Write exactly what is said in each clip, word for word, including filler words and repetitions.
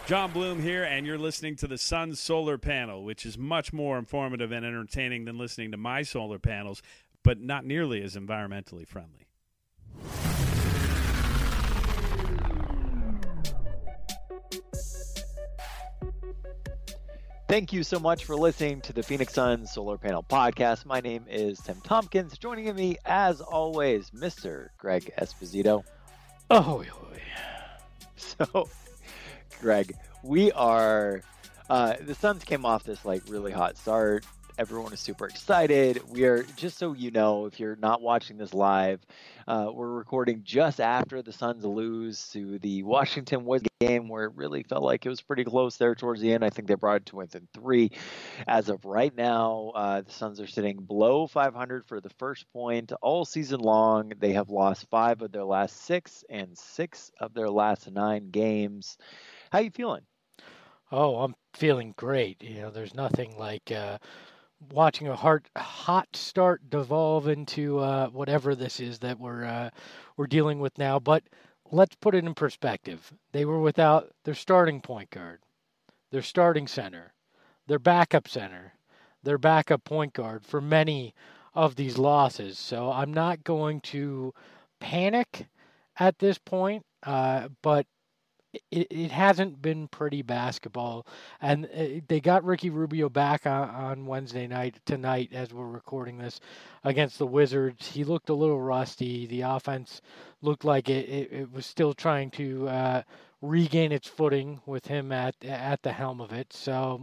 John Bloom here, and you're listening to the Sun Solar Panel, which is much more informative and entertaining than listening to my solar panels, but not nearly as environmentally friendly. Thank you so much for listening to the Phoenix Suns Solar Panel Podcast. My name is Tim Tompkins. Joining me, as always, Mister Greg Esposito. Oh, so, Greg, we are, uh, the Suns came off this like really hot start. Everyone is super excited. We are, just so you know, if you're not watching this live, uh, we're recording just after the Suns lose to the Washington Wizards game, where it really felt like it was pretty close there towards the end. I think they brought it to within three. As of right now, uh, the Suns are sitting below five hundred for the first point all season long. They have lost five of their last six and six of their last nine games. How you feeling? Oh, I'm feeling great. You know, there's nothing like uh, watching a hard, hot start devolve into uh, whatever this is that we're uh, we're dealing with now. But let's put it in perspective. They were without their starting point guard, their starting center, their backup center, their backup point guard for many of these losses. So I'm not going to panic at this point, uh, but It, it hasn't been pretty basketball, and they got Ricky Rubio back on, on Wednesday night, tonight, as we're recording this, against the Wizards. He looked a little rusty. The offense looked like it, it, it was still trying to uh, regain its footing with him at at the helm of it. So,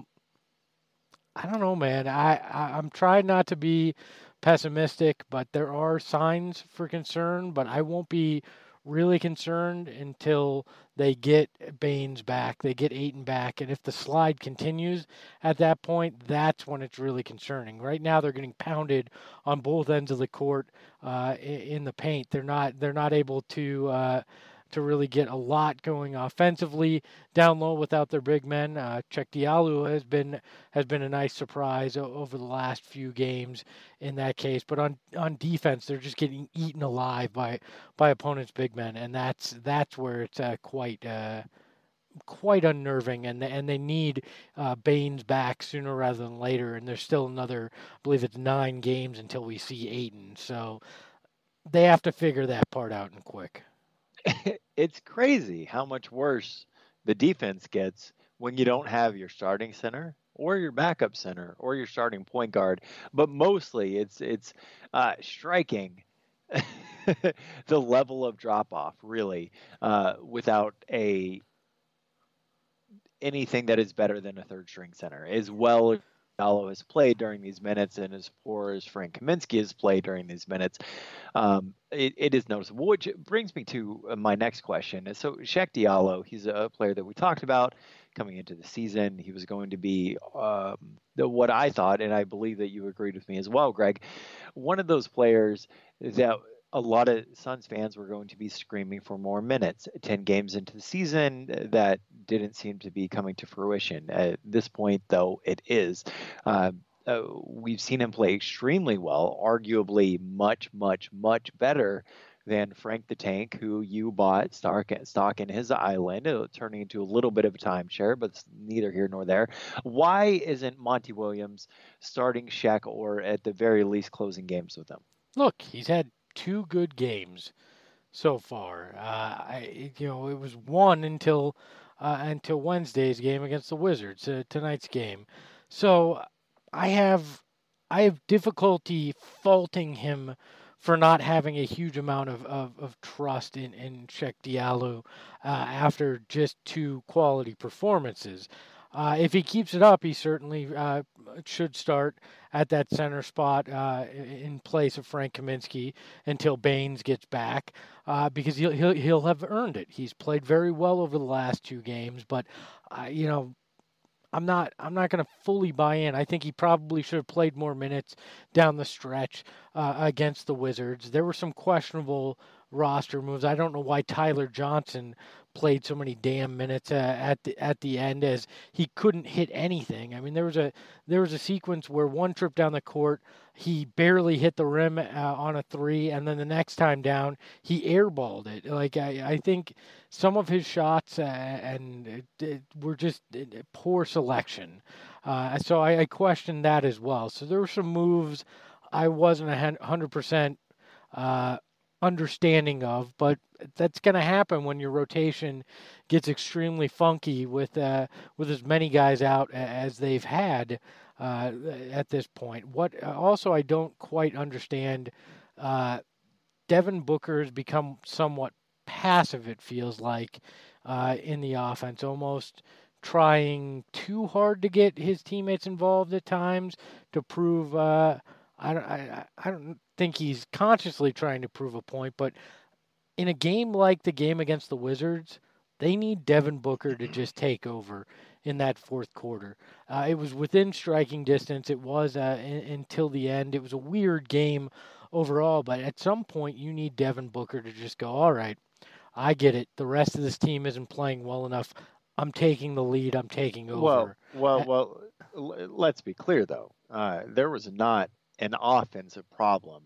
I don't know, man. I, I, I'm trying not to be pessimistic, but there are signs for concern, but I won't be really concerned until they get Baynes back, they get Ayton back, and if the slide continues at that point, that's when it's really concerning. Right now, they're getting pounded on both ends of the court uh, in the paint. They're not they're not able to uh, to really get a lot going offensively down low without their big men. Uh, Cheick Diallo has been has been a nice surprise o- over the last few games in that case, but on on defense, they're just getting eaten alive by by opponents' big men, and that's that's where it's uh, quite uh, quite unnerving, and and they need uh, Baynes back sooner rather than later. And there's still another, I believe it's nine games until we see Ayton, so they have to figure that part out and quick. It's crazy how much worse the defense gets when you don't have your starting center or your backup center or your starting point guard. But mostly it's it's uh, striking the level of drop off, really, uh, without a anything that is better than a third string center, as well as Diallo has played during these minutes and as poor as Frank Kaminsky has played during these minutes. Um, it, it is noticeable, which brings me to my next question. So Cheick Diallo, he's a player that we talked about coming into the season. He was going to be um, the, what I thought, and I believe that you agreed with me as well, Greg, one of those players that a lot of Suns fans were going to be screaming for more minutes. ten games into the season, that didn't seem to be coming to fruition. At this point, though, it is. Uh, uh, we've seen him play extremely well, arguably much, much, much better than Frank the Tank, who you bought stock, stock in his island, uh, turning into a little bit of a timeshare, but it's neither here nor there. Why isn't Monty Williams starting Shaq, or at the very least closing games with him? Look, he's had two good games so far. Uh, I, you know, it was one until uh, until Wednesday's game against the Wizards, uh, tonight's game. So I have I have difficulty faulting him for not having a huge amount of, of, of trust in, in Cheick Diallo uh, after just two quality performances. Uh, if he keeps it up, he certainly uh, should start at that center spot uh, in place of Frank Kaminsky until Baynes gets back, uh, because he'll, he'll he'll have earned it. He's played very well over the last two games, but uh, you know. I'm not. I'm not going to fully buy in. I think he probably should have played more minutes down the stretch uh, against the Wizards. There were some questionable roster moves. I don't know why Tyler Johnson played so many damn minutes uh, at the at the end, as he couldn't hit anything. I mean, there was a there was a sequence where one trip down the court, he barely hit the rim uh, on a three, and then the next time down, he airballed it. Like I, I think some of his shots uh, and it, it were just poor selection. Uh, so I, I questioned that as well. So there were some moves I wasn't a hundred percent uh, understanding of, but that's going to happen when your rotation gets extremely funky with uh, with as many guys out as they've had uh, at this point. What also I don't quite understand, uh, Devin Booker has become somewhat passive, it feels like, uh, in the offense, almost trying too hard to get his teammates involved at times to prove. Uh, I don't. I, I don't think he's consciously trying to prove a point, but in a game like the game against the Wizards, they need Devin Booker to just take over in that fourth quarter. Uh, it was within striking distance. It was uh, in, until the end. It was a weird game overall, but at some point you need Devin Booker to just go, all right, I get it. The rest of this team isn't playing well enough. I'm taking the lead. I'm taking over. Well, well, well. Let's be clear, though. Uh, there was not an offensive problem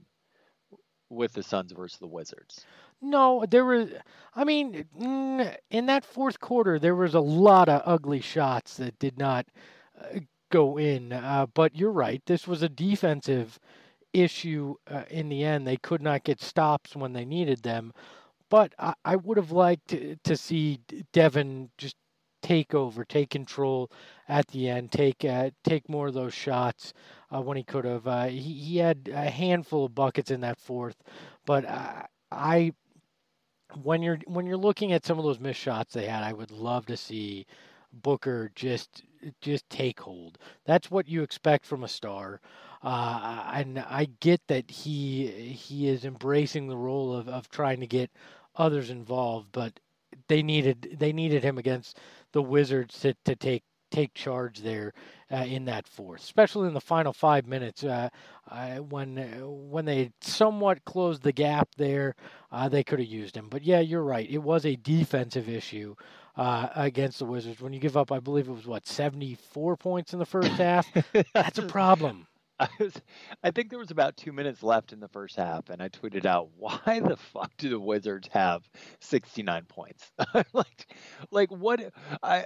with the Suns versus the Wizards. No, there was. I mean, in that fourth quarter, there was a lot of ugly shots that did not uh, go in. Uh, but you're right. This was a defensive issue uh, in the end. They could not get stops when they needed them. But I, I would have liked to, to see Devin just take over, take control at the end, take uh, take more of those shots uh, when he could have. Uh, he, he had a handful of buckets in that fourth, but uh, I, when you're when you're looking at some of those missed shots they had, I would love to see Booker just just take hold. That's what you expect from a star. Uh, and I get that he he is embracing the role of, of trying to get others involved, but they needed they needed him against the Wizards to, to take take charge there uh, in that fourth, especially in the final five minutes uh, uh, when when they somewhat closed the gap there. Uh, they could have used him, but yeah, you're right. It was a defensive issue uh, against the Wizards. When you give up, I believe it was what seventy-four points in the first half. That's a problem. I, was, I think there was about two minutes left in the first half, and I tweeted out, "Why the fuck do the Wizards have sixty-nine points? like, like what? I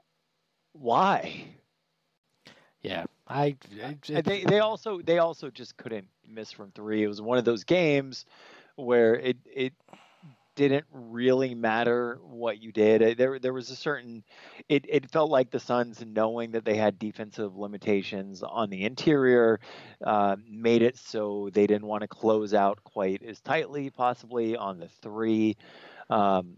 why?" Yeah, I. I they they also they also just couldn't miss from three. It was one of those games where it it didn't really matter what you did. There there was a certain it, it felt like the Suns, knowing that they had defensive limitations on the interior, uh, made it so they didn't want to close out quite as tightly, possibly on the three. Um,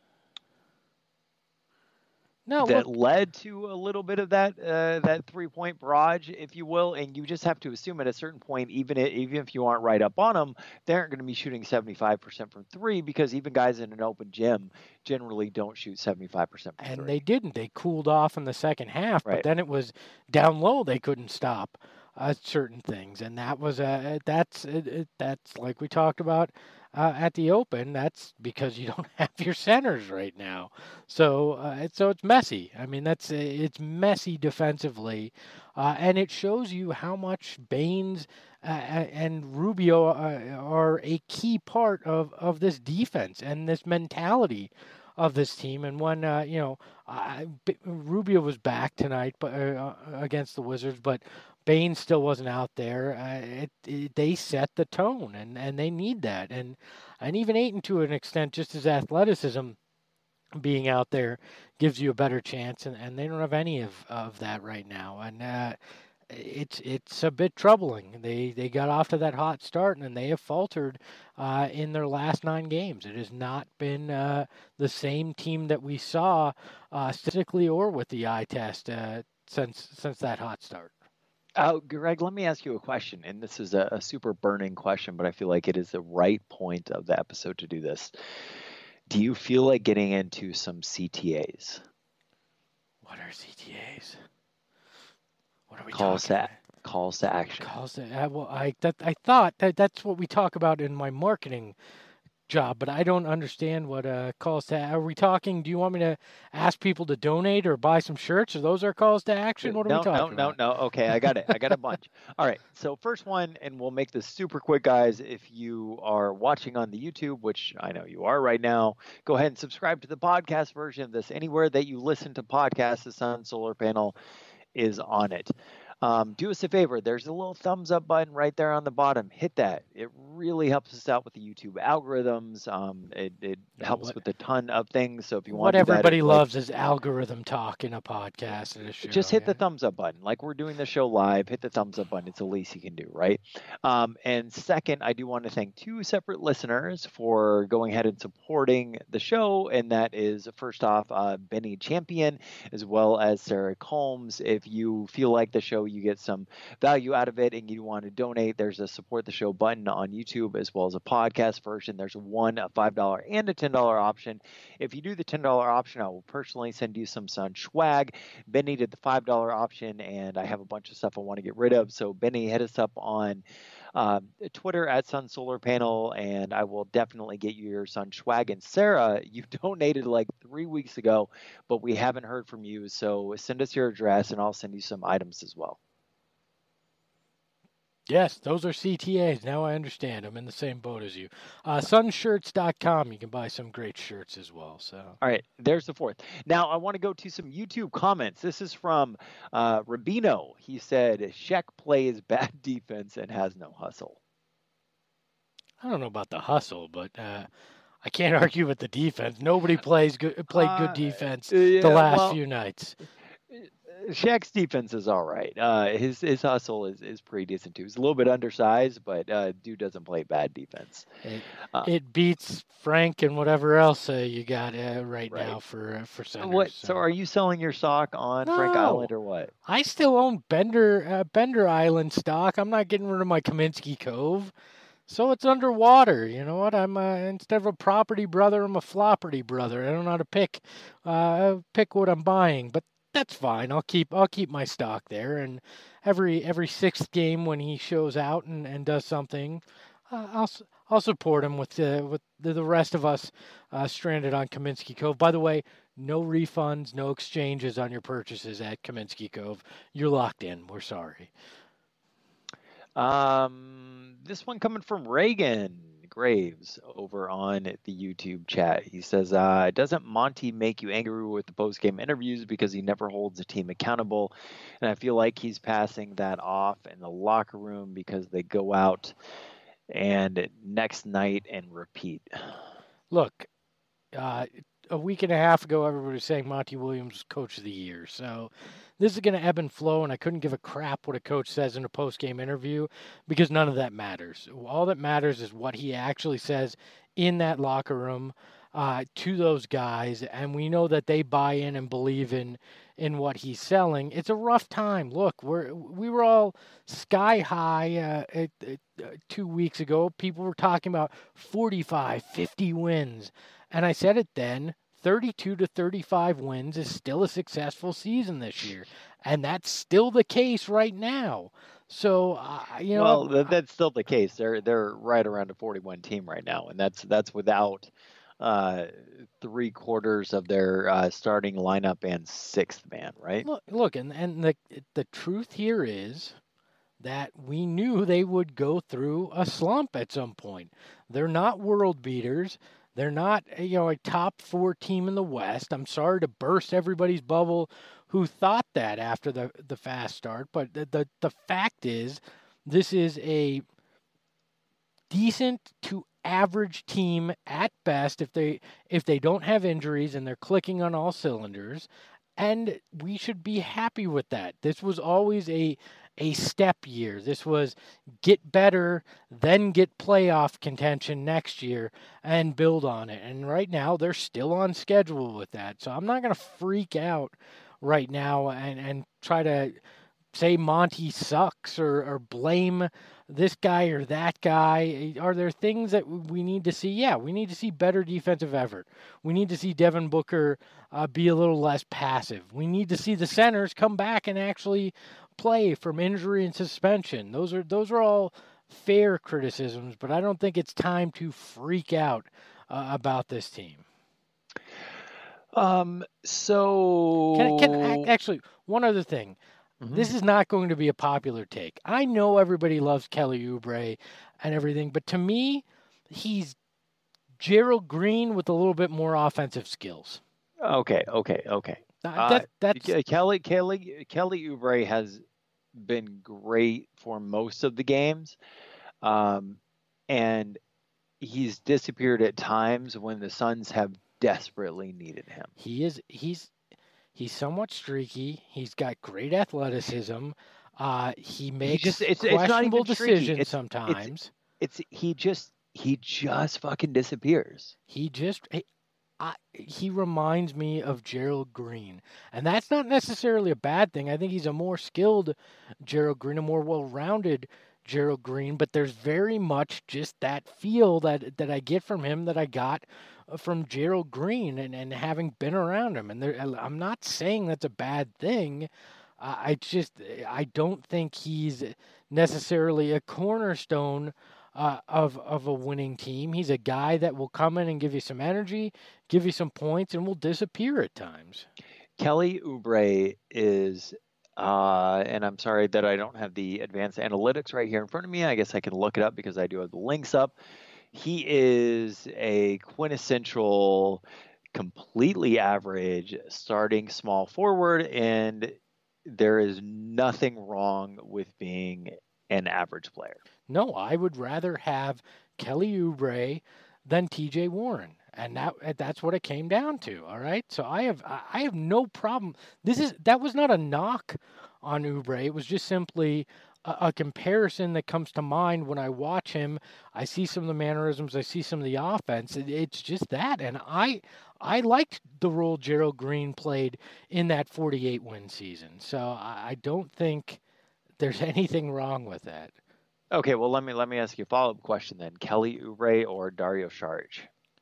No, that look, led to a little bit of that uh, that three point barrage, if you will, and you just have to assume at a certain point, even if, even if you aren't right up on them, they aren't going to be shooting seventy-five percent from three, because even guys in an open gym generally don't shoot seventy-five percent from and three. they didn't. They cooled off in the second half, Right. but then it was down low. They couldn't stop uh, certain things, and that was a that's it, it, that's like we talked about uh, at the Open. That's because you don't have your centers right now, so uh, so it's messy. I mean, that's it's messy defensively, uh, and it shows you how much Baines uh, and Rubio uh, are a key part of of this defense and this mentality of this team. And when uh, you know uh, Rubio was back tonight, but uh, against the Wizards, but Baines still wasn't out there. Uh, it, it, they set the tone, and, and they need that. And and even Ayton, to an extent, just his athleticism being out there gives you a better chance, and, and they don't have any of, of that right now. And uh, it's it's a bit troubling. They they got off to that hot start, and then they have faltered uh, in their last nine games. It has not been uh, the same team that we saw uh, statistically or with the eye test uh, since since that hot start. Oh, Greg, let me ask you a question, and this is a, a super burning question, but I feel like it is the right point of the episode to do this. Do you feel like getting into some C T As? What are C T As? What are we Call talking sat. about? calls to action. Calls to uh, well, I that I thought that that's what we talk about in my marketing job, but I don't understand what uh, calls to. Are we talking? Do you want me to ask people to donate or buy some shirts? Are those our calls to action? What are no, we talking no, about? No, no, no. Okay, I got it. I got a bunch. All right. So first one, and we'll make this super quick, guys. If you are watching on the YouTube, which I know you are right now, go ahead and subscribe to the podcast version of this. Anywhere that you listen to podcasts, the Sun Solar Panel is on it. Um, do us a favor. There's a little thumbs up button right there on the bottom. Hit that. It really helps us out with the YouTube algorithms. Um, it it helps what, with a ton of things. So if you want what to do that, everybody like, loves is algorithm talk in a podcast and a show. just hit yeah. the thumbs up button. Like we're doing the show live, hit the thumbs up button. It's the least you can do, right? Um, and second, I do want to thank two separate listeners for going ahead and supporting the show. And that is, first off, uh, Benny Champion, as well as Sarah Combs. If you feel like the show, you get some value out of it and you want to donate, there's a support the show button on YouTube, as well as a podcast version. There's one, a five dollars and a ten dollars option. If you do the ten dollars option, I will personally send you some Sun swag. Benny did the five dollars option, and I have a bunch of stuff I want to get rid of. So Benny, hit us up on uh, Twitter at Sun Solar Panel, and I will definitely get you your Sun swag. And Sarah, you donated like three weeks ago, but we haven't heard from you. So send us your address, and I'll send you some items as well. Yes, those are C T As. Now I understand. I'm in the same boat as you. Uh, sun shirts dot com. You can buy some great shirts as well. So, all right, there's the fourth. Now I want to go to some YouTube comments. This is from uh, Rubino. He said, Sheck plays bad defense and has no hustle. I don't know about the hustle, but uh, I can't argue with the defense. Nobody plays good, played good Uh, defense yeah, the last well, few nights. Shaq's defense is all right. Uh, his his hustle is, is pretty decent too. He's a little bit undersized, but uh, dude doesn't play bad defense. It, uh, it beats Frank and whatever else uh, you got uh, right, right now for uh, for centers. What? So. so are you selling your stock on no, Frank Island or what? I still own Bender uh, Bender Island stock. I'm not getting rid of my Kaminsky Cove. So it's underwater. You know what? I'm uh, instead of a property brother, I'm a flopperty brother. I don't know how to pick uh, pick what I'm buying, but that's fine. I'll keep I'll keep my stock there, and every every sixth game when he shows out and, and does something, uh, I'll I'll support him with the with the, the rest of us uh, stranded on Kaminsky Cove. By the way, no refunds, no exchanges on your purchases at Kaminsky Cove. You're locked in. We're sorry. Um, this one coming from Reagan Graves over on the YouTube chat. He says, uh, doesn't Monty make you angry with the post-game interviews because he never holds the team accountable? And I feel like he's passing that off in the locker room because they go out and next night and repeat. Look, uh, a week and a half ago, everybody was saying Monty Williams was coach of the year. So this is going to ebb and flow, and I couldn't give a crap what a coach says in a post-game interview because none of that matters. All that matters is what he actually says in that locker room uh, to those guys, and we know that they buy in and believe in in what he's selling. It's a rough time. Look, we're we were all sky high uh, at, at, uh, two weeks ago. People were talking about forty-five, fifty wins, and I said it then. thirty-two to thirty-five wins is still a successful season this year, and that's still the case right now. So, uh, you know, well, th- that's still the case. They're they're right around a forty-one team right now, and that's that's without uh, three quarters of their uh, starting lineup and sixth man, right? Look, look, and and the the truth here is that we knew they would go through a slump at some point. They're not world beaters. They're not, you know, a top four team in the West. I'm sorry to burst everybody's bubble who thought that after the, the fast start, but the, the the fact is this is a decent to average team at best if they if they don't have injuries and they're clicking on all cylinders, and we should be happy with that. This was always a a step year. This was get better, then get playoff contention next year and build on it. And right now they're still on schedule with that. So I'm not going to freak out right now and, and try to say Monty sucks or, or blame this guy or that guy. Are there things that we need to see? Yeah, we need to see better defensive effort. We need to see Devin Booker uh, be a little less passive. We need to see the centers come back and actually play from injury and suspension. Those are those are all fair criticisms, but I don't think it's time to freak out uh, about this team. Um. So Can, can actually one other thing. Mm-hmm. This is not going to be a popular take. I know everybody loves Kelly Oubre and everything, but to me, he's Gerald Green with a little bit more offensive skills. Okay, okay, okay. Uh, that, that's uh, Kelly Kelly Kelly Oubre has been great for most of the games, um, and he's disappeared at times when the Suns have desperately needed him. He is he's he's somewhat streaky. He's got great athleticism. Uh, he makes just, it's, questionable it's decisions it's, sometimes. It's, it's he just he just fucking disappears. He just he, I, he reminds me of Gerald Green, and that's not necessarily a bad thing. I think he's a more skilled Gerald Green, a more well-rounded Gerald Green, but there's very much just that feel that that I get from him that I got from Gerald Green, and, and having been around him. And there, I'm not saying that's a bad thing. Uh, I just I don't think he's necessarily a cornerstone uh, of of a winning team. He's a guy that will come in and give you some energy, give you some points, and will disappear at times. Kelly Oubre is. Uh, and I'm sorry that I don't have the advanced analytics right here in front of me. I guess I can look it up because I do have the links up. He is a quintessential, completely average starting small forward, and there is nothing wrong with being an average player. No, I would rather have Kelly Oubre than T J Warren. And that that's what it came down to. All right. So I have I have no problem. This is that was not a knock on Oubre. It was just simply a, a comparison that comes to mind when I watch him. I see some of the mannerisms. I see some of the offense. It, it's just that. And I I liked the role Gerald Green played in that forty-eight win season. So I, I don't think there's anything wrong with that. Okay. Well, let me let me ask you a follow up question then. Kelly Oubre or Dario Saric?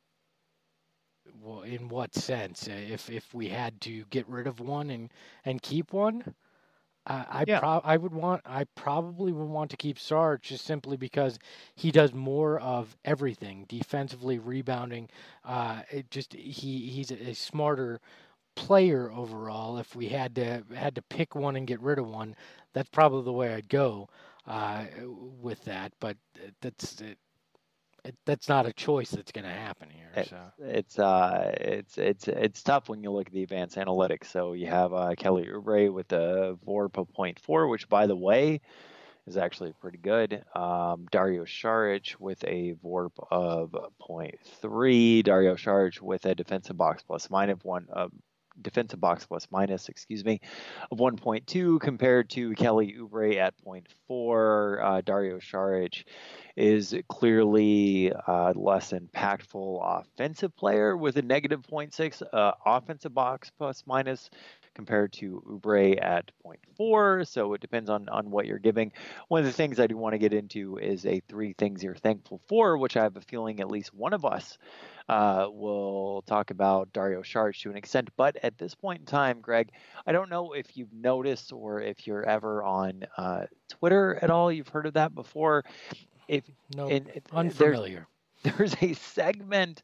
Well, in what sense? If if we had to get rid of one and, and keep one, uh, I yeah. pro- I would want I probably would want to keep Sarge just simply because he does more of everything defensively, rebounding. Uh, it just he he's a, a smarter player overall. If we had to had to pick one and get rid of one, that's probably the way I'd go uh, with that. But that's it. It, that's not a choice that's going to happen here. It's, so. it's uh it's it's it's tough when you look at the advanced analytics. So you have uh, Kelly Oubre with a V O R P of zero point four, which by the way is actually pretty good. Um, Dario Saric with a V O R P of zero point three. Dario Saric with a defensive box plus minus one. Uh, defensive box plus minus, excuse me, of one point two compared to Kelly Oubre at zero point four. Uh, Dario Saric is clearly uh, less impactful offensive player with a negative zero point six uh, offensive box plus minus compared to Oubre at zero point four. So it depends on, on what you're giving. One of the things I do want to get into is a three things you're thankful for, which I have a feeling at least one of us uh, will talk about Dario Saric to an extent. But at this point in time, Greg, I don't know if you've noticed or if you're ever on uh, Twitter at all. You've heard of that before. If no, and, unfamiliar. There's, there's a segment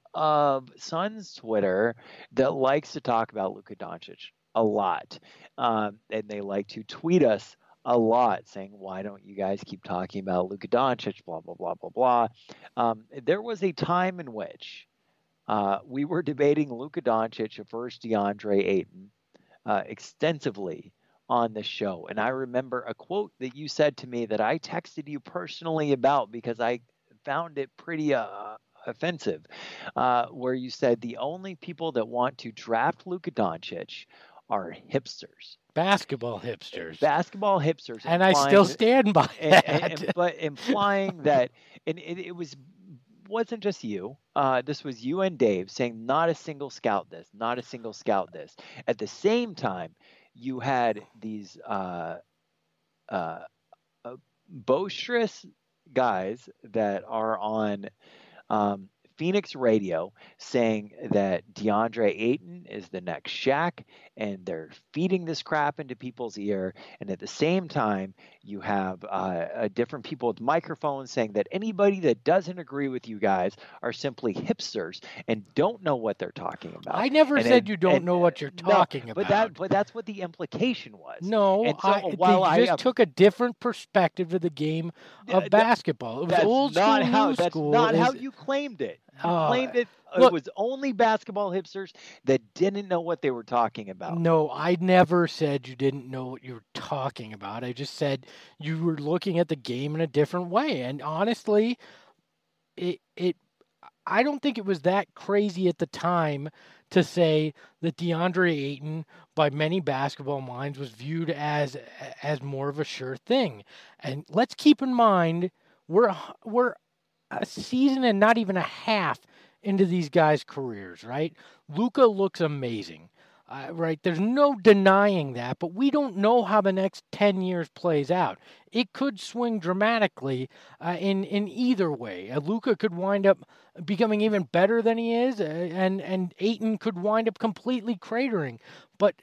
of Suns Twitter that likes to talk about Luka Doncic a lot, um, and they like to tweet us a lot, saying, "Why don't you guys keep talking about Luka Doncic?" Blah blah blah blah blah. Um, there was a time in which uh, we were debating Luka Doncic versus DeAndre Ayton uh, extensively on the show. And I remember a quote that you said to me that I texted you personally about because I found it pretty uh, offensive, uh, where you said the only people that want to draft Luka Doncic are hipsters. Basketball hipsters. Basketball hipsters. And I still stand by that. And, and, but implying that, and it, it was wasn't just you. Uh, this was you and Dave saying not a single scout this, not a single scout this. At the same time, you had these uh, uh, uh, boisterous guys that are on um, Phoenix radio saying that DeAndre Ayton is the next Shaq, and they're feeding this crap into people's ear. And at the same time, you have uh, uh, different people with microphones saying that anybody that doesn't agree with you guys are simply hipsters and don't know what they're talking about. I never and, said and, you don't and, know what you're talking no, about. But that, but that's what the implication was. No, and so, I, while they I, just took a different perspective of the game of uh, basketball. It was that's old not school, how, new That's school. not is, how you claimed it. You uh, claimed it. look, it was only basketball hipsters that didn't know what they were talking about. No, I never said you didn't know what you were talking about. I just said you were looking at the game in a different way. And honestly, it it I don't think it was that crazy at the time to say that DeAndre Ayton, by many basketball minds, was viewed as as more of a sure thing. And let's keep in mind, we're we're a season and not even a half into these guys' careers, right? Luka looks amazing, uh, right? There's no denying that, but we don't know how the next ten years plays out. It could swing dramatically uh, in in either way. Uh, Luka could wind up becoming even better than he is, uh, and and Ayton could wind up completely cratering. But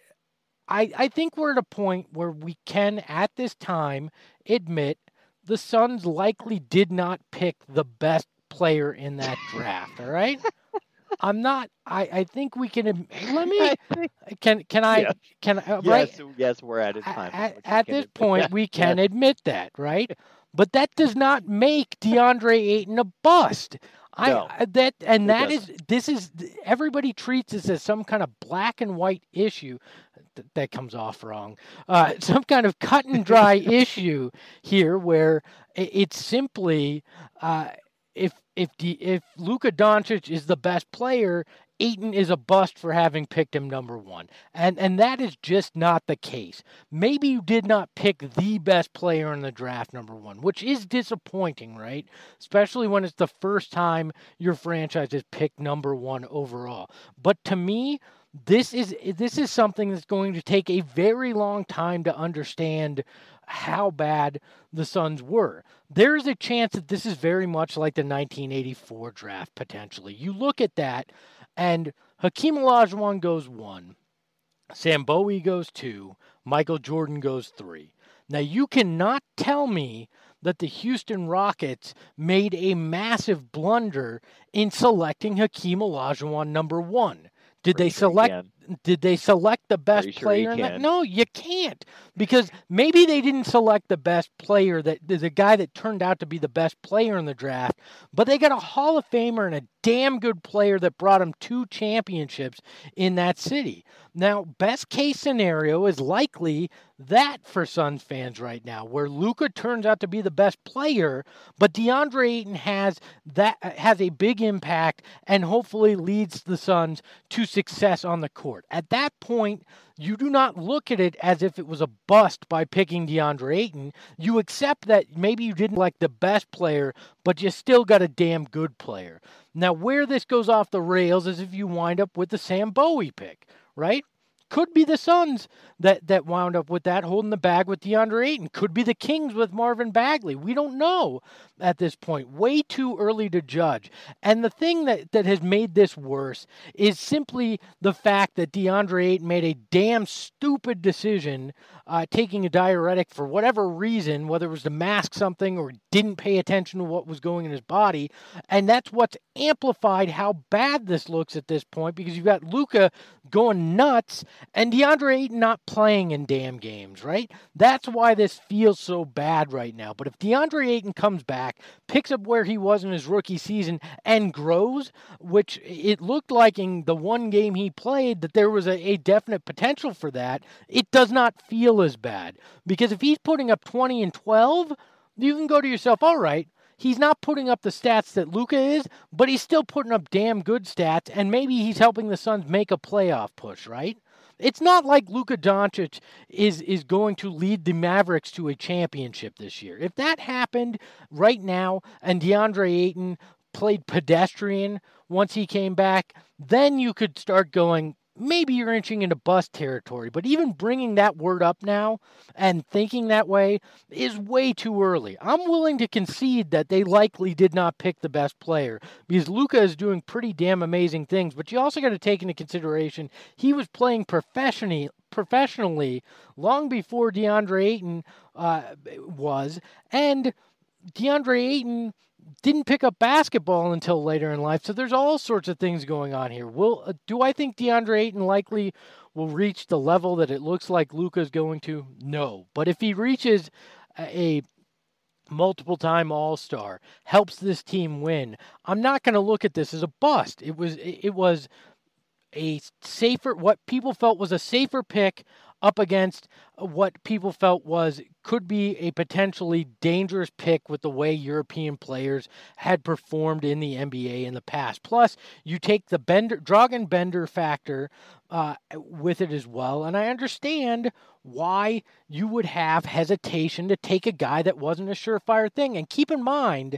I I think we're at a point where we can, at this time, admit the Suns likely did not pick the best player in that draft. All right. I'm not. I, I think we can. Let me. Can can I? Yes. Can uh, yes, right? Yes, we're at a time. At, at at this point, that. we can yes. admit that, right? But that does not make DeAndre Ayton a bust. I No, that and that doesn't. is this is everybody treats this as some kind of black and white issue. Th- that comes off wrong. Uh, some kind of cut and dry issue here, where it, it's simply uh, if if the if Luka Doncic is the best player, Ayton is a bust for having picked him number one. And and that is just not the case. Maybe you did not pick the best player in the draft number one, which is disappointing, right? Especially when it's the first time your franchise is picked number one overall. But to me, this is this is something that's going to take a very long time to understand how bad the Suns were. There is a chance that this is very much like the nineteen eighty-four draft, potentially. You look at that, and Hakeem Olajuwon goes one, Sam Bowie goes two, Michael Jordan goes three. Now, you cannot tell me that the Houston Rockets made a massive blunder in selecting Hakeem Olajuwon number one. Did Pretty they sure select? can. Did they select the best Pretty sure player you in that? can. No, you can't, because maybe they didn't select the best player, that the guy that turned out to be the best player in the draft, but they got a Hall of Famer and a damn good player that brought them two championships in that city. Now, best case scenario is likely that for Suns fans right now, where Luka turns out to be the best player, but DeAndre Ayton has that has a big impact and hopefully leads the Suns to success on the court. At that point, you do not look at it as if it was a bust by picking DeAndre Ayton. You accept that maybe you didn't like the best player, but you still got a damn good player. Now, where this goes off the rails is if you wind up with the Sam Bowie pick, right? Could be the Suns that, that wound up with that, holding the bag with DeAndre Ayton. Could be the Kings with Marvin Bagley. We don't know at this point. Way too early to judge. And the thing that, that has made this worse is simply the fact that DeAndre Ayton made a damn stupid decision uh, taking a diuretic for whatever reason, whether it was to mask something or didn't pay attention to what was going in his body. And that's what's amplified how bad this looks at this point, because you've got Luka going nuts and DeAndre Ayton not playing in damn games, right? That's why this feels so bad right now. But if DeAndre Ayton comes back, picks up where he was in his rookie season, and grows, which it looked like in the one game he played that there was a, a definite potential for that, it does not feel as bad. Because if he's putting up twenty and twelve, you can go to yourself, all right, he's not putting up the stats that Luka is, but he's still putting up damn good stats, and maybe he's helping the Suns make a playoff push, right? It's not like Luka Doncic is, is going to lead the Mavericks to a championship this year. If that happened right now and DeAndre Ayton played pedestrian once he came back, then you could start going, maybe you're inching into bust territory. But even bringing that word up now and thinking that way is way too early. I'm willing to concede that they likely did not pick the best player because Luka is doing pretty damn amazing things. But you also got to take into consideration he was playing professionally professionally long before DeAndre Ayton uh, was, and DeAndre Ayton didn't pick up basketball until later in life. So there's all sorts of things going on here. Will uh, do I think DeAndre Ayton likely will reach the level that it looks like Luka's going to? No. But if he reaches a, a multiple-time All-Star, helps this team win, I'm not going to look at this as a bust. It was it, it was a safer, what people felt was a safer pick up against what people felt was could be a potentially dangerous pick with the way European players had performed in the N B A in the past. Plus, you take the Bender, Dragan Bender factor uh, with it as well, and I understand why you would have hesitation to take a guy that wasn't a surefire thing. And keep in mind,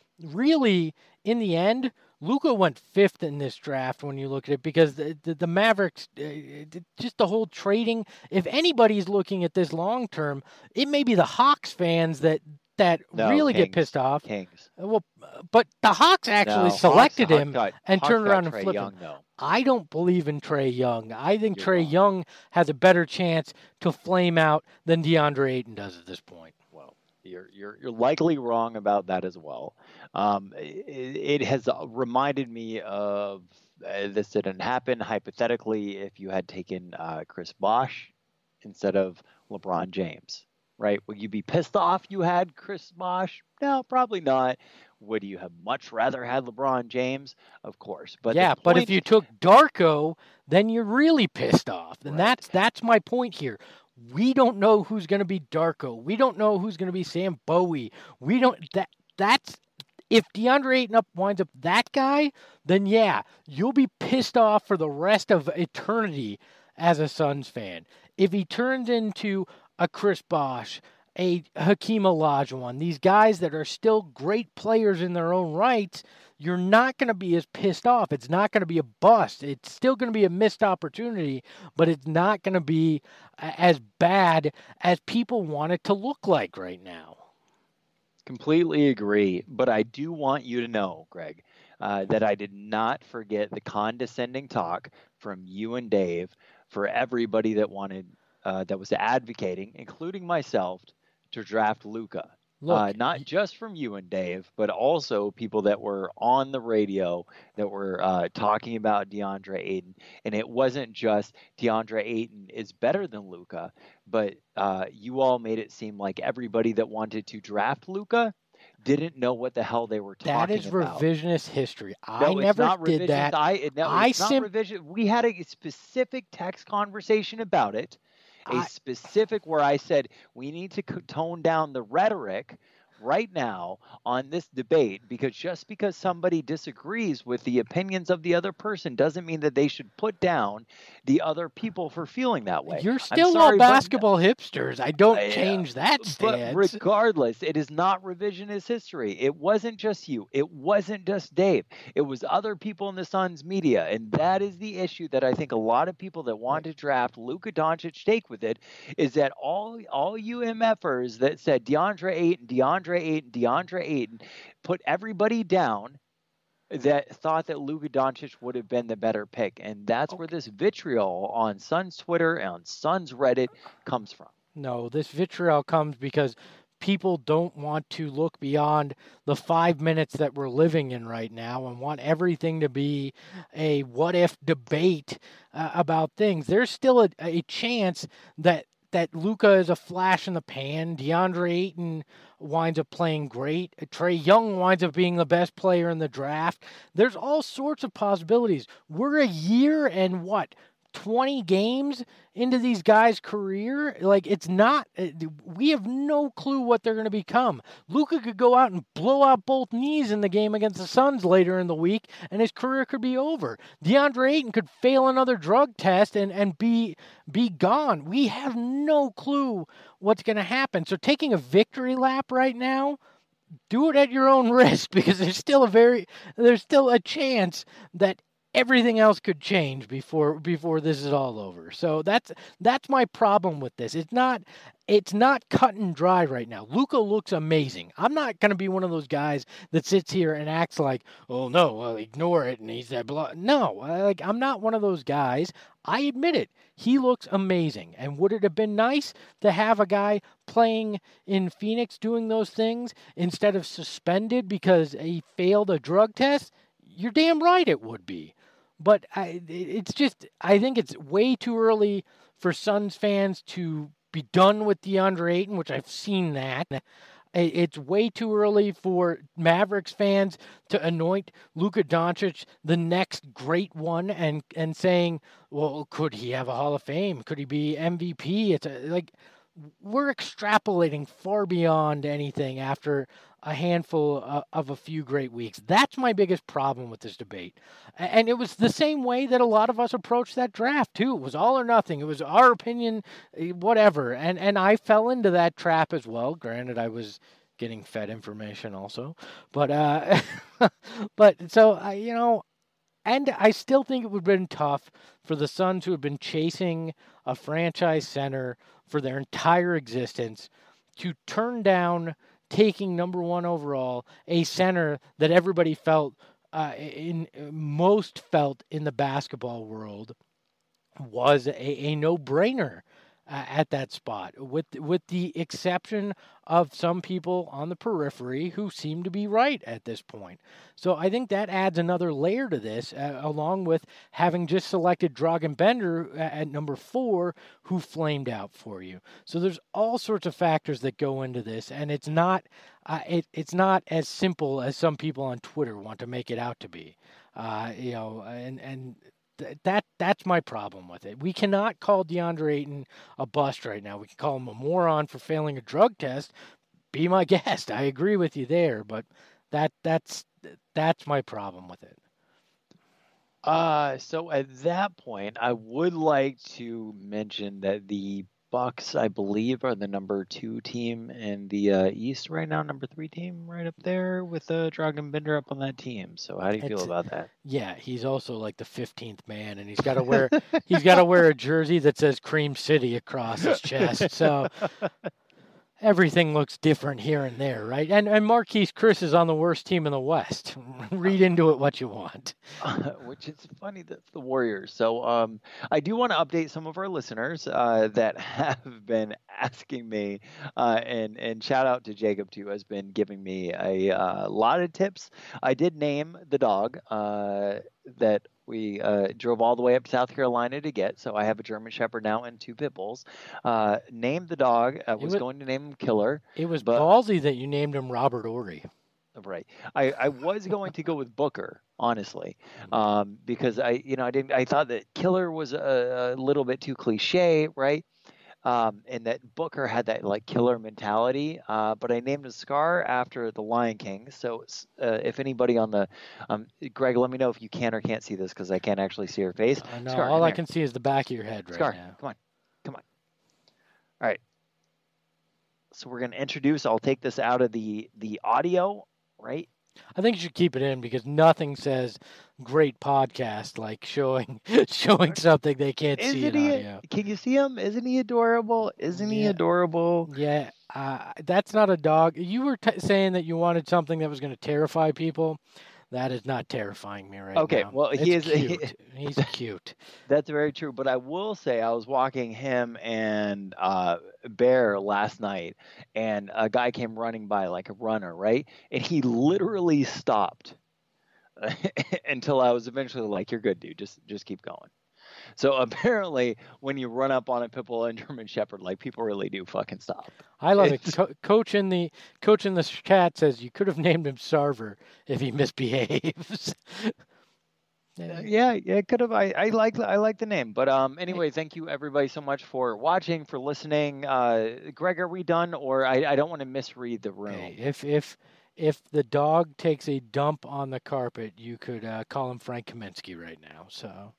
really, in the end, Luka went fifth in this draft when you look at it because the, the, the Mavericks, uh, just the whole trading, if anybody's looking at this long term, it may be the Hawks fans that that no, really Kings, get pissed off. Kings. Well, but the Hawks actually no, selected Hawks, him Hawks got, and Hawks turned around and Trae flipped Young, him. though. I don't believe in Trae Young. I think You're Trae wrong. Young has a better chance to flame out than DeAndre Ayton does at this point. Well, you're you're you're likely wrong about that as well. Um, it, it has reminded me of uh, this didn't happen. Hypothetically, if you had taken uh, Chris Bosh instead of LeBron James, right? Would you be pissed off you had Chris Bosh? No, probably not. Would you have much rather had LeBron James? Of course. But yeah, the but point- if you took Darko, then you're really pissed off. And Right. that's that's my point here. We don't know who's going to be Darko. We don't know who's going to be Sam Bowie. We don't that that's if DeAndre Ayton up winds up that guy, then yeah, you'll be pissed off for the rest of eternity as a Suns fan. If he turns into a Chris Bosh, a Hakeem Olajuwon, these guys that are still great players in their own rights, you're not going to be as pissed off. It's not going to be a bust. It's still going to be a missed opportunity, but it's not going to be as bad as people want it to look like right now. Completely agree, but I do want you to know, Greg, uh, that I did not forget the condescending talk from you and Dave for everybody that wanted, uh, that was advocating, including myself, to draft Luka. Uh, not just from you and Dave, but also people that were on the radio that were uh, talking about DeAndre Ayton. And it wasn't just DeAndre Ayton is better than Luka, but uh, you all made it seem like everybody that wanted to draft Luka didn't know what the hell they were talking about. That is about. revisionist history. I no, never it's not did revisionist. that. I, no, I it's not sim- revision. We had a specific text conversation about it. A I- specific where I said we need to tone down the rhetoric right now on this debate, because just because somebody disagrees with the opinions of the other person doesn't mean that they should put down the other people for feeling that way. You're still sorry, all but- basketball hipsters. I don't Uh, change that But stance. regardless, it is not revisionist history. It wasn't just you. It wasn't just Dave. It was other people in the Suns media. And that is the issue that I think a lot of people that want to draft Luka Doncic take with it, is that all all you MFers that said DeAndre Ayton, DeAndre Ayton, DeAndre Ayton, put everybody down that thought that Luka Doncic would have been the better pick. And that's where this vitriol on Suns Twitter and on Suns Reddit comes from. No, this vitriol comes because people don't want to look beyond the five minutes that we're living in right now and want everything to be a what-if debate uh, about things. There's still a, a chance that that Luka is a flash in the pan. DeAndre Ayton winds up playing great. Trae Young winds up being the best player in the draft. There's all sorts of possibilities. We're a year and what? twenty games into these guys' career. Like, it's not, we have no clue what they're going to become. Luka could go out and blow out both knees in the game against the Suns later in the week, and his career could be over. DeAndre Ayton could fail another drug test and, and be be gone. We have no clue what's going to happen. So taking a victory lap right now, do it at your own risk, because there's still a very, there's still a chance that everything else could change before before this is all over. So that's that's my problem with this. It's not it's not cut and dry right now. Luka looks amazing. I'm not going to be one of those guys that sits here and acts like, "Oh no, well, ignore it," and he's that blah. No, like I'm not one of those guys. I admit it. He looks amazing. And would it have been nice to have a guy playing in Phoenix doing those things instead of suspended because he failed a drug test? You're damn right it would be. But I, it's just, I think it's way too early for Suns fans to be done with DeAndre Ayton, which I've seen that. It's way too early for Mavericks fans to anoint Luka Doncic the next great one and, and saying, well, could he have a Hall of Fame? Could he be M V P? It's a, like, we're extrapolating far beyond anything after a handful of, of a few great weeks. That's my biggest problem with this debate. And it was the same way that a lot of us approached that draft, too. It was all or nothing. It was our opinion, whatever. And and I fell into that trap as well. Granted, I was getting fed information also. But, uh, but so, uh, you know, and I still think it would have been tough for the Suns who have been chasing a franchise center for their entire existence to turn down taking number one overall, a center that everybody felt, uh, in most felt in the basketball world was a, a no-brainer uh, at that spot, with with the exception of some people on the periphery who seem to be right at this point. So I think that adds another layer to this, uh, along with having just selected Dragan Bender at number four, who flamed out for you. So there's all sorts of factors that go into this, and it's not uh, it, it's not as simple as some people on Twitter want to make it out to be. Uh, you know, and and. That that's my problem with it. We cannot call DeAndre Ayton a bust right now. We can call him a moron for failing a drug test. Be my guest. I agree with you there, but that that's that's my problem with it. Uh, so at that point, I would like to mention that the Bucks, I believe, are the number two team in the uh, East right now, number three team right up there with uh, Dragan Bender up on that team. So how do you It's, feel about that? Yeah, he's also like the fifteenth man, and he's got to wear he's got to wear a jersey that says Cream City across his chest. So everything looks different here and there, right? And and Marquise Chris is on the worst team in the West. Read into it what you want. Uh, which is funny, that's the Warriors. So um, I do want to update some of our listeners uh, that have been asking me, uh, and, and shout out to Jacob, too, has been giving me a uh, lot of tips. I did name the dog uh, that we uh, drove all the way up to South Carolina to get. So I have a German Shepherd now and two pit bulls. Uh, named the dog. I was, was going to name him Killer. It was but, ballsy that you named him Robert Ory. Right. I, I was going to go with Booker, honestly, um, because I, you know, I didn't. I thought that Killer was a, a little bit too cliche, right? Um, and that Booker had that like killer mentality. Uh, but I named him Scar after the Lion King. So uh, if anybody on the, um, Greg, let me know if you can or can't see this because I can't actually see your face. Uh, no, Scar, all I here. can see is the back of your head right Scar, now. come on, come on. All right. So we're going to introduce. I'll take this out of the the audio. Right? I think you should keep it in because nothing says great podcast like showing showing something they can't Isn't see in he, audio. Can you see him? Isn't he adorable? Isn't yeah. he adorable? Yeah, uh, that's not a dog. You were t- saying that you wanted something that was going to terrify people. That is not terrifying me right okay, now. Okay, well, he it's is cute. He, He's cute. That's very true. But I will say, I was walking him and uh, Bear last night, and a guy came running by like a runner, right? And he literally stopped until I was eventually like, "You're good, dude. Just just keep going." So apparently, when you run up on a pit bull and German Shepherd, like people really do fucking stop. I love it. Co- coach in the coach in the chat says you could have named him Sarver if he misbehaves. yeah, yeah, it could have. I, I like I like the name, but um, anyway, thank you everybody so much for watching, for listening. Uh, Greg, are we done? Or I, I don't want to misread the room. Okay. If if if the dog takes a dump on the carpet, you could uh, call him Frank Kaminsky right now. So.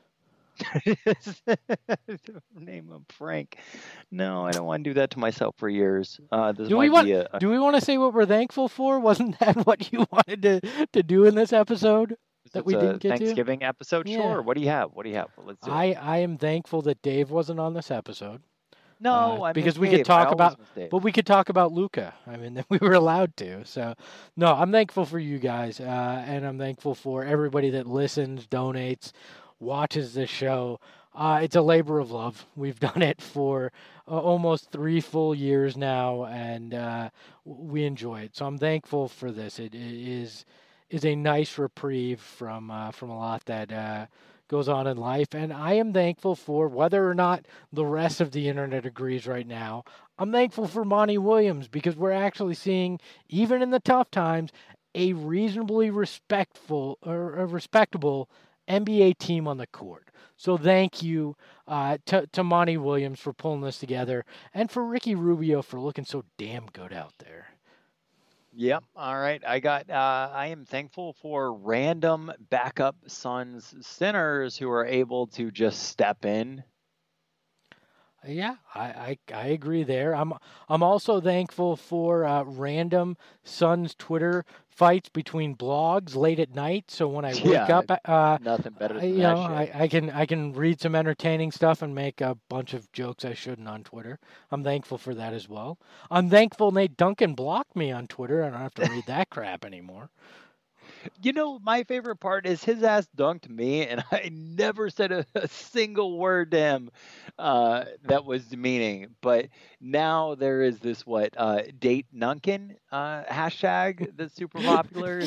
Name him Frank. No, I don't want to do that to myself for years. Uh, this do might we want? be a, do we want to say what we're thankful for? Wasn't that what you wanted to, to do in this episode? that It's we a didn't get to? Thanksgiving episode. Yeah. Sure. What do you have? What do you have? Let's do it. I, I am thankful that Dave wasn't on this episode. No, uh, I because miss we Dave. could talk I about, always miss Dave. but we could talk about Luca. I mean, we were allowed to. So, no, I'm thankful for you guys, uh, and I'm thankful for everybody that listens, donates, watches this show. Uh, it's a labor of love. We've done it for uh, almost three full years now, and uh, we enjoy it. So I'm thankful for this. It, it is is a nice reprieve from uh, from a lot that uh, goes on in life, and I am thankful for whether or not the rest of the internet agrees right now. I'm thankful for Monty Williams because we're actually seeing, even in the tough times, a reasonably respectful or a respectable N B A team on the court. So thank you uh, to, to Monty Williams for pulling this together and for Ricky Rubio for looking so damn good out there. Yep. All right. I got. Uh, I am thankful for random backup Suns centers who are able to just step in. Yeah, I, I, I agree there. I'm I'm also thankful for uh, random Suns Twitter fights between blogs late at night. So when I wake Yeah, up, uh, Nothing better I- than you that know, shit. I, I can I can read some entertaining stuff and make a bunch of jokes I shouldn't on Twitter. I'm thankful for that as well. I'm thankful Nate Duncan blocked me on Twitter. I don't have to read that crap anymore. You know, my favorite part is his ass dunked me, and I never said a, a single word to him uh, that was demeaning. But now there is this what uh, date Nunkin uh, hashtag that's super popular.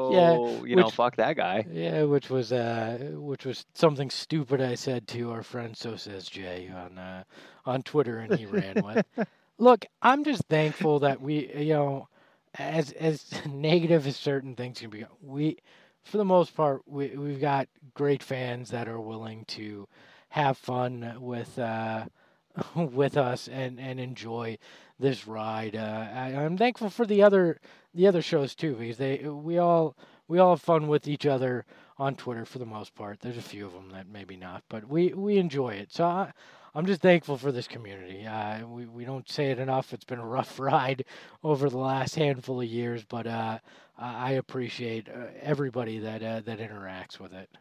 So you know, which- fuck that guy. Yeah, which was uh, which was something stupid I said to our friend So Says Jay on uh, on Twitter, and he ran with. Look, I'm just thankful that we, you know, as as negative as certain things can be, we, for the most part, we we've got great fans that are willing to have fun with uh, with us and, and enjoy this ride. Uh, I, I'm thankful for the other the other shows too, because they we all we all have fun with each other on Twitter for the most part. There's a few of them that maybe not, but we, we enjoy it. So I, I'm just thankful for this community. Uh, we we don't say it enough. It's been a rough ride over the last handful of years, but uh, I appreciate uh, everybody that uh, that interacts with it.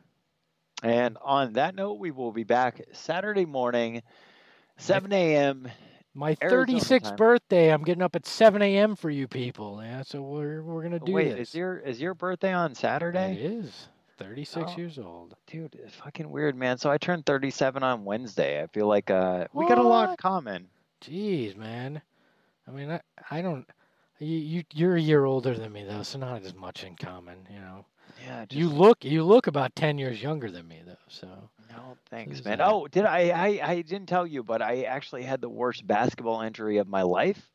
And on that note, we will be back Saturday morning, seven a.m. My Arizona thirty-sixth time. birthday. I'm getting up at seven a.m. for you people. Yeah, so we're we're gonna do Wait, this. is your is your birthday on It Saturday? is. thirty-six Oh. years old. Dude, it's fucking weird, man. So I turned thirty-seven on Wednesday. I feel like uh, we got a lot in What? common. Jeez, man. I mean, I, I don't. You, you you're a year older than me though, so not as much in common. You know. Yeah, just, You look you look about ten years younger than me though. So. no, thanks, is man. that? Oh, did I, I? I didn't tell you, but I actually had the worst basketball injury of my life.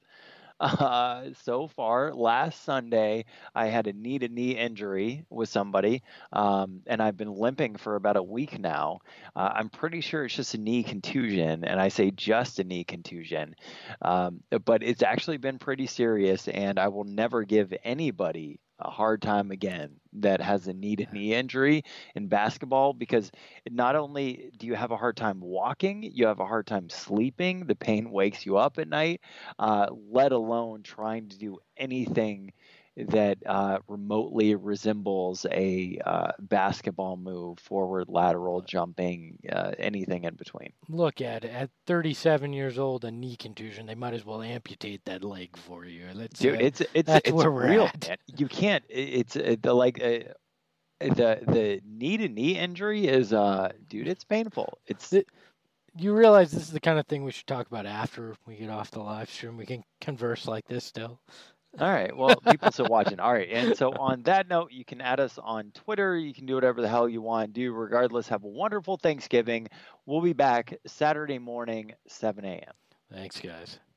Uh, so far, last Sunday, I had a knee to knee injury with somebody, um, and I've been limping for about a week now. Uh, I'm pretty sure it's just a knee contusion, and I say just a knee contusion, um, but it's actually been pretty serious, and I will never give anybody a hard time again that has a knee to knee injury in basketball, because not only do you have a hard time walking, you have a hard time sleeping. The pain wakes you up at night, uh, let alone trying to do anything that uh, remotely resembles a uh, basketball move, forward, lateral, jumping, uh, anything in between. Look at it. At thirty-seven years old, a knee contusion. They might as well amputate that leg for you. Let's, Dude, uh, it's it's that's it's where we're real, at. man. You can't. it- It's uh, the like. Uh, the the knee to knee injury is uh dude, it's painful. It's The- you realize this is the kind of thing we should talk about after we get off the live stream. We can converse like this still. all right. Well, people still watching. All right. And so on that note, you can add us on Twitter. You can do whatever the hell you want to do. Regardless, have a wonderful Thanksgiving. We'll be back Saturday morning, seven a.m. Thanks, guys.